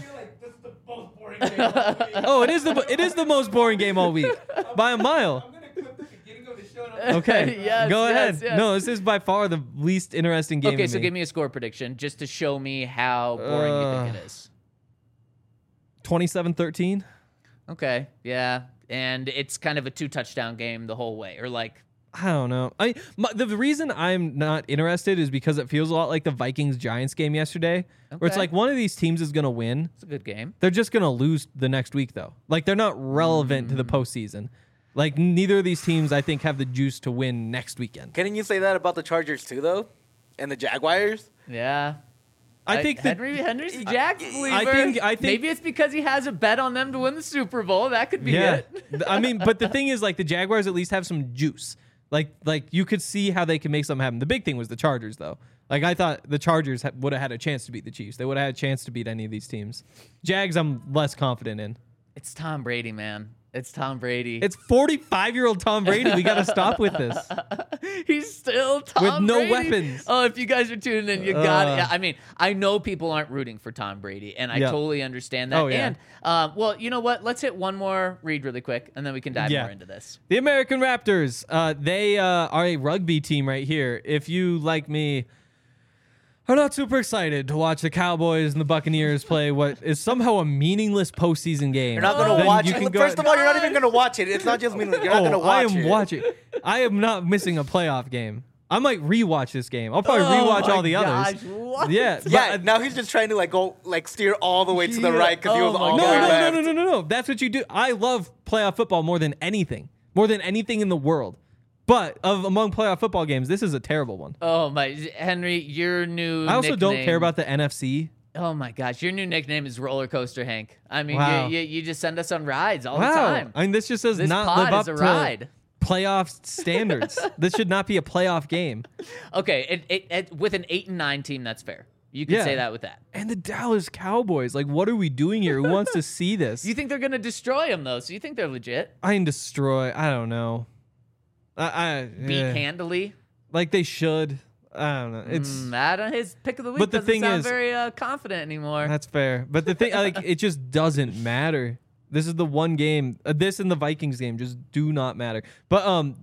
Oh, it is the most boring game all week by a mile. Okay, Yes, go ahead. yes. No, this is by far the least interesting game. Okay, to so me. give me a score prediction just to show me how boring you think it is. 27-13. Okay, yeah. And it's kind of a 2-touchdown game the whole way, or like... I don't know. The reason I'm not interested is because it feels a lot like the Vikings-Giants game yesterday, where it's Okay. like one of these teams is going to win. It's a good game. They're just going to lose the next week, though. Like, they're not relevant to the postseason. Like, neither of these teams, I think, have the juice to win next weekend. Couldn't you say that about the Chargers too, though, and the Jaguars? Yeah. I think Henry's a Jags believer. I think maybe it's because he has a bet on them to win the Super Bowl. That could be it. I mean, but the thing is, like, the Jaguars at least have some juice. Like you could see how they could make something happen. The big thing was the Chargers, though. Like, I thought the Chargers would have had a chance to beat the Chiefs. They would have had a chance to beat any of these teams. Jags, I'm less confident in. It's Tom Brady, man. It's Tom Brady. It's 45-year-old Tom Brady. We got to stop with this. He's still Tom Brady. With no Brady. weapons. Oh, if you guys are tuning in, you got it. I mean, I know people aren't rooting for Tom Brady, and I totally understand that. Oh, yeah. And, well, you know what? Let's hit one more read really quick, and then we can dive more into this. The American Raptors. They are a rugby team right here. If you, like me, are not super excited to watch the Cowboys and the Buccaneers play what is somehow a meaningless postseason game. You're not going to watch it. First of all, you're not even going to watch it. It's not just meaningless. You're not going to watch it. I am watching. I am not missing a playoff game. I might rewatch this game. I'll probably rewatch all the others. What? Yeah. Now he's just trying to steer all the way to the right because he was all the way left. No. That's what you do. I love playoff football more than anything in the world. But among playoff football games, this is a terrible one. Oh my, Henry, your new I also nickname, don't care about the NFC. Oh my gosh, your new nickname is Roller Coaster Hank. I mean, wow. you just send us on rides all the time. I mean, this just says this not pod live up is a to ride. Playoff standards. This should not be a playoff game. Okay, with an 8-9 team, that's fair. You can say that with that. And the Dallas Cowboys, like, what are we doing here? Who wants to see this? You think they're gonna destroy them though? So you think they're legit? I don't know. Beat handily, like they should. I don't know. It's his pick of the week. But the doesn't thing sound is, very confident anymore. That's fair. But the thing, it just doesn't matter. This is the one game. This and the Vikings game just do not matter. But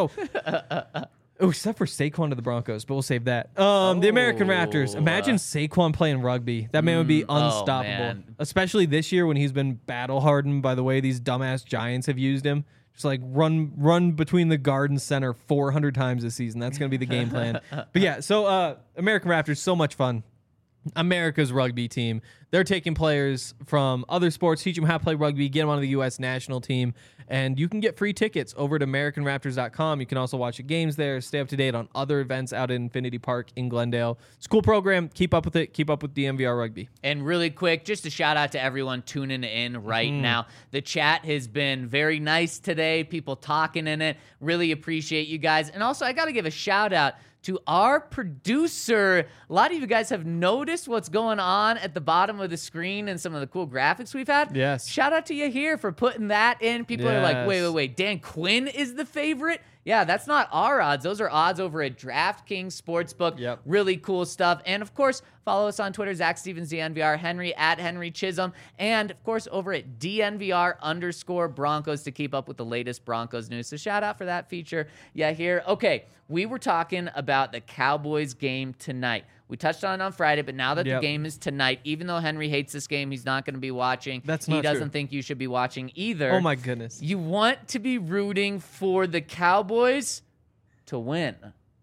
except for Saquon to the Broncos, but we'll save that. The American Raptors. Imagine Saquon playing rugby. That man would be unstoppable. Especially this year when he's been battle hardened by the way these dumbass Giants have used him. Just like run between the Garden Center 400 times this season. That's going to be the game plan. But yeah, so American Raptors, so much fun. America's rugby team. They're taking players from other sports, teach them how to play rugby, get them on the U.S. national team, and you can get free tickets over at AmericanRaptors.com. You can also watch the games there, stay up to date on other events out in Infinity Park in Glendale. It's a cool program. Keep up with it. Keep up with DNVR Rugby. And really quick, just a shout out to everyone tuning in right now. The chat has been very nice today. People talking in it. Really appreciate you guys. And also, I got to give a shout out to our producer. A lot of you guys have noticed what's going on at the bottom of the screen and some of the cool graphics we've had. Yes. Shout out to you here for putting that in. People are like, wait. Dan Quinn is the favorite? Yeah, that's not our odds. Those are odds over at DraftKings Sportsbook. Yep. Really cool stuff. And, of course, follow us on Twitter, Zach Stevens, DNVR, Henry, at Henry Chisholm. And, of course, over at DNVR_Broncos to keep up with the latest Broncos news. So shout out for that feature. Yeah, here. Okay, we were talking about the Cowboys game tonight. We touched on it on Friday, but now that the game is tonight, even though Henry hates this game, he's not going to be watching. That's not He doesn't true. think you should be watching either. Oh, my goodness. You want to be rooting for the Cowboys to win.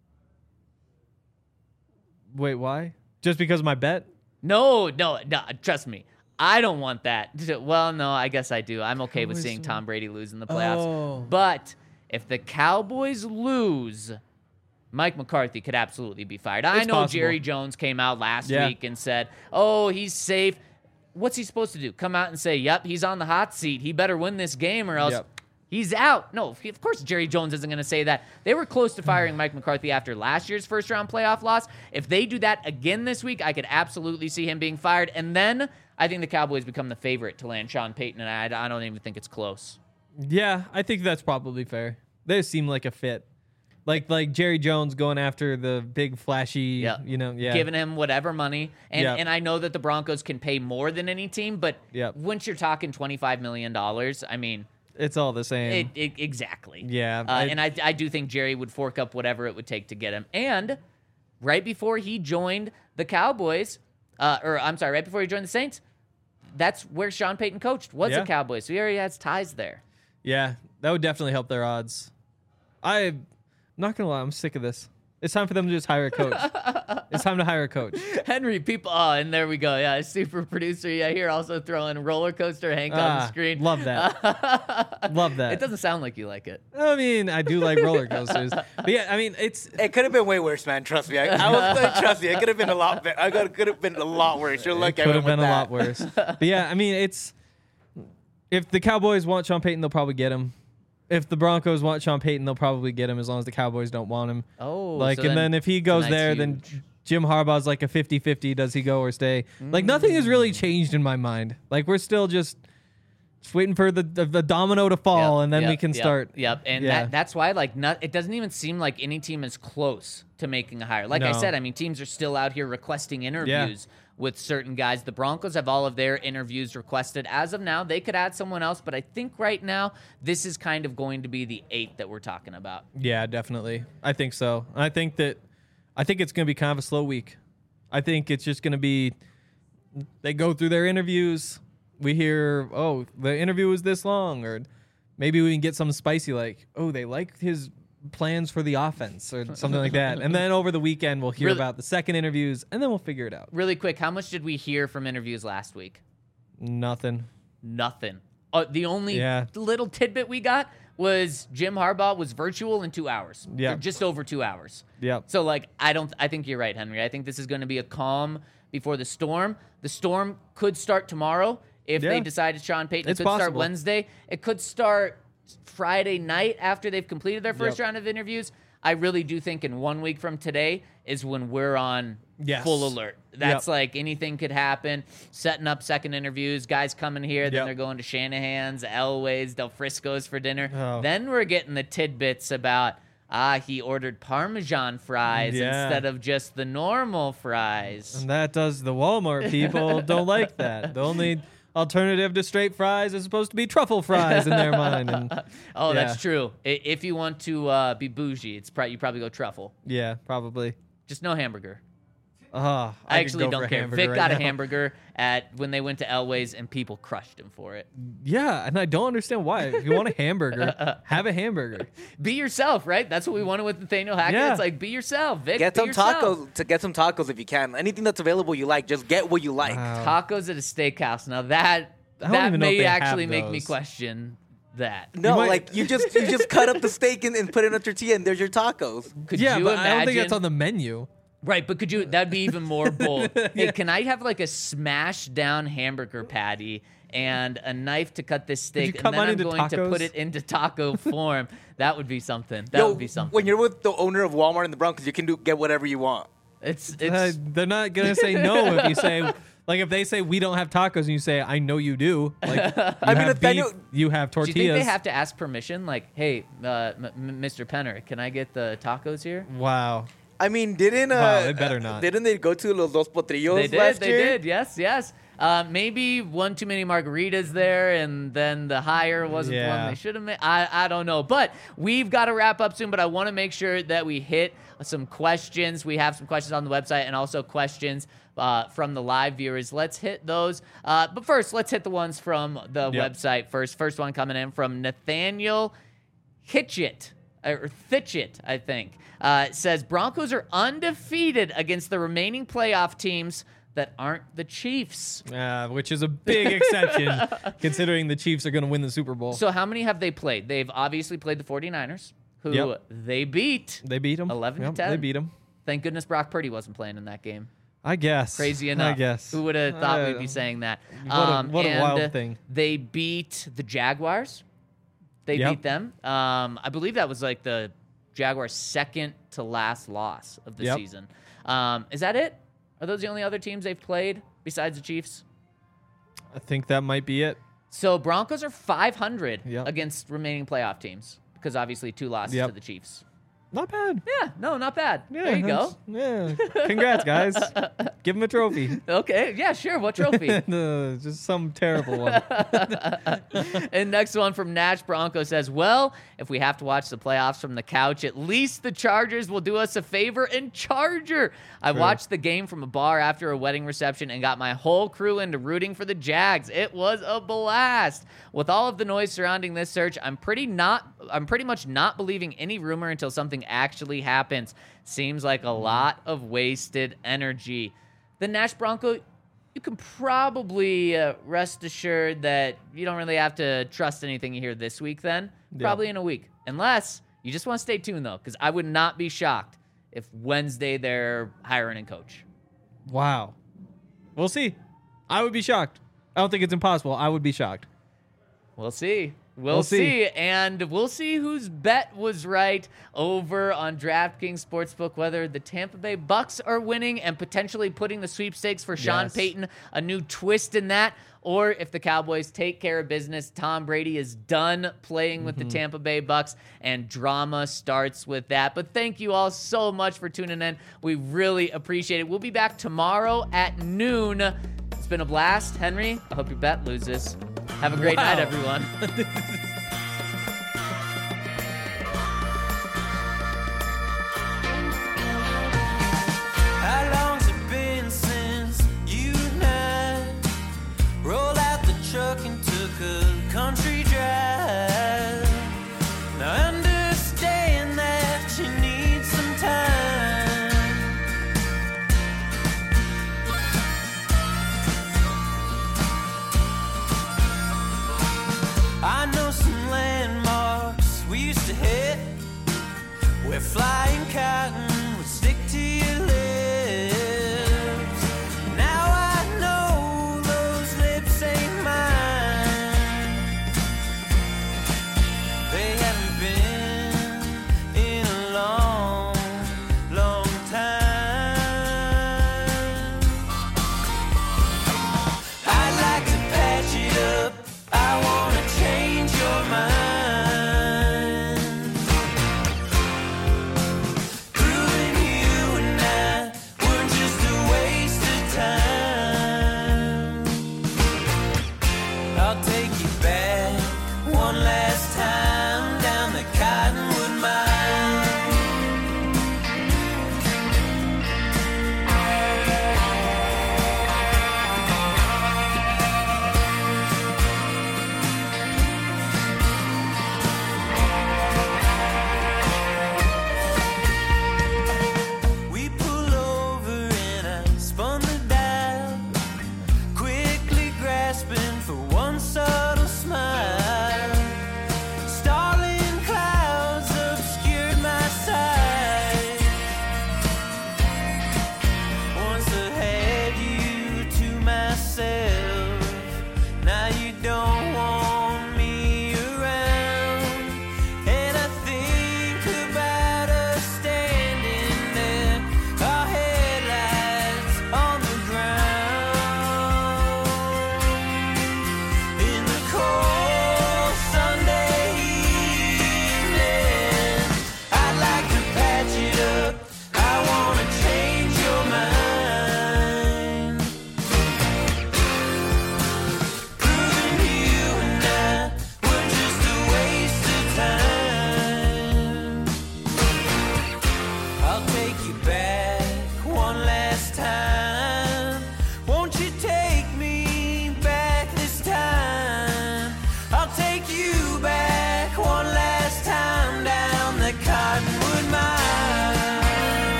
Wait, why? Just because of my bet? No, trust me. I don't want that. Well, no, I guess I do. I'm okay with seeing Tom Brady lose in the playoffs. Oh. But if the Cowboys lose, Mike McCarthy could absolutely be fired. I know possible. Jerry Jones came out last week and said, oh, he's safe. What's he supposed to do? Come out and say, yep, he's on the hot seat. He better win this game or else he's out. No, of course Jerry Jones isn't going to say that. They were close to firing Mike McCarthy after last year's first-round playoff loss. If they do that again this week, I could absolutely see him being fired. And then I think the Cowboys become the favorite to land Sean Payton, and I don't even think it's close. Yeah, I think that's probably fair. They seem like a fit. Like Jerry Jones going after the big flashy, giving him whatever money. And I know that the Broncos can pay more than any team, but once you're talking $25 million, I mean, it's all the same. Exactly. Yeah. And I do think Jerry would fork up whatever it would take to get him. And right before he joined the Cowboys, right before he joined the Saints, that's where Sean Payton coached, was the Cowboys. So he already has ties there. Yeah, that would definitely help their odds. I'm not going to lie, I'm sick of this. It's time for them to just hire a coach. It's time to hire a coach. Henry, people. Oh, and there we go. Yeah, super producer. Yeah, here also throwing roller coaster Hank on the screen. Love that. Love that. It doesn't sound like you like it. I mean, I do like roller coasters. But yeah, I mean, It could have been way worse, man. Trust me. I was like, trust me. It could have been a lot better. It could have been a lot worse. You're lucky. It could have been a lot worse. But yeah, I mean, if the Cowboys want Sean Payton, they'll probably get him. If the Broncos want Sean Payton, they'll probably get him as long as the Cowboys don't want him. Oh, like, so and then if he goes there, then Jim Harbaugh's like a 50-50. Does he go or stay? Like, nothing has really changed in my mind. Like, we're still just waiting for the domino to fall, and then we can start. Yep, and that's why, like, it doesn't even seem like any team is close to making a hire. Like I said, I mean, teams are still out here requesting interviews with certain guys. The Broncos have all of their interviews requested. As of now, they could add someone else, but I think right now, this is kind of going to be the 8 that we're talking about. Yeah, definitely. I think so. I think it's going to be kind of a slow week. I think it's just going to be, they go through their interviews. We hear, oh, the interview was this long, or maybe we can get something spicy like, oh, they like his plans for the offense or something like that. And then over the weekend, we'll hear about the second interviews, and then we'll figure it out. Really quick, how much did we hear from interviews last week? Nothing. The only little tidbit we got was Jim Harbaugh was virtual in 2 hours. Yeah. Just over 2 hours. Yep. So, like, I think you're right, Henry. I think this is going to be a calm before the storm. The storm could start tomorrow if they decide it's Sean Payton. It could start Wednesday. It could start Friday night after they've completed their first round of interviews. I really do think in 1 week from today is when we're on full alert. That's like anything could happen. Setting up second interviews, guys coming here, then they're going to Shanahan's, Elway's, Del Frisco's for dinner. Oh. Then we're getting the tidbits about, he ordered Parmesan fries instead of just the normal fries. And that does the Walmart people don't like that. The only alternative to straight fries is supposed to be truffle fries in their mind. And, that's true. If you want to be bougie, you probably go truffle. Yeah, probably. Just no hamburger. I actually don't care. Vic got a hamburger when they went to Elway's, and people crushed him for it. Yeah, and I don't understand why. If you want a hamburger, have a hamburger. Be yourself, right? That's what we wanted with Nathaniel Hackett. Yeah. It's like, be yourself, Vic. Get some tacos if you can. Anything that's available you like, just get what you like. Wow. Tacos at a steakhouse. Now that may actually make me question that. No, you just cut up the steak and put it in a tortilla, and there's your tacos. Could you imagine? I don't think that's on the menu. Right, but that'd be even more bold. Hey, can I have like a smashed down hamburger patty and a knife to cut this steak, and then I'm going to put it into taco form? That would be something. That would be something. When you're with the owner of Walmart in the Broncos, you can get whatever you want. They're not gonna say no if you say, like, if they say we don't have tacos and you say I know you do. Like, you have tortillas. Do you think they have to ask permission? Like, hey, Mr. Penner, can I get the tacos here? Wow. I mean, they better not. Didn't they go to Los Dos Potrillos last year? They did. Yes. Maybe one too many margaritas there, and then the hire wasn't the one they should have made. I don't know. But we've got to wrap up soon, but I want to make sure that we hit some questions. We have some questions on the website and also questions from the live viewers. Let's hit those. But first, let's hit the ones from the website first. First one coming in from Nathaniel Hitchett, or Thitchett, I think. Says, Broncos are undefeated against the remaining playoff teams that aren't the Chiefs. Which is a big exception, considering the Chiefs are going to win the Super Bowl. So how many have they played? They've obviously played the 49ers, who they beat. They beat them. 11-10. They beat them. Thank goodness Brock Purdy wasn't playing in that game. I guess. Crazy enough. I guess. Who would have thought we'd be saying that? What a wild thing. They beat the Jaguars. They beat them. I believe that was like the Jaguars' second to last loss of the season. Is that it? Are those the only other teams they've played besides the Chiefs? I think that might be it. So Broncos are 500 against remaining playoff teams because obviously 2 losses to the Chiefs. Not bad. Yeah, no, not bad. Yeah, there you go. Yeah, congrats, guys. Give him a trophy. Okay, yeah, sure. What trophy? Just some terrible one. And next one from Nash Bronco says, well, if we have to watch the playoffs from the couch, at least the Chargers will do us a favor and Charger. I watched the game from a bar after a wedding reception and got my whole crew into rooting for the Jags. It was a blast. With all of the noise surrounding this search, I'm pretty not I'm pretty much not believing any rumor until something actually happens. Seems like a lot of wasted energy. The Nash Bronco, you can probably rest assured that you don't really have to trust anything you hear this week then. Probably in a week. Unless you just want to stay tuned, though, because I would not be shocked if Wednesday they're hiring a coach. Wow. We'll see. I would be shocked. I don't think it's impossible. I would be shocked. We'll see. We'll see. And we'll see whose bet was right over on DraftKings Sportsbook, whether the Tampa Bay Bucks are winning and potentially putting the sweepstakes for Sean Payton, a new twist in that, or if the Cowboys take care of business, Tom Brady is done playing with the Tampa Bay Bucks, and drama starts with that. But thank you all so much for tuning in. We really appreciate it. We'll be back tomorrow at noon. It's been a blast. Henry, I hope your bet loses. Have a great night, everyone. How long's it been since you and I rolled out the truck and took a country drive? Now I understand that you need some time. I know some landmarks we used to hit where flying cotton would stick to your lips. Now I know those lips ain't mine. They haven't been in a long, long time. I'd like to patch it up. I wanna change your mind. Proving you and I weren't just a waste of time. I'll take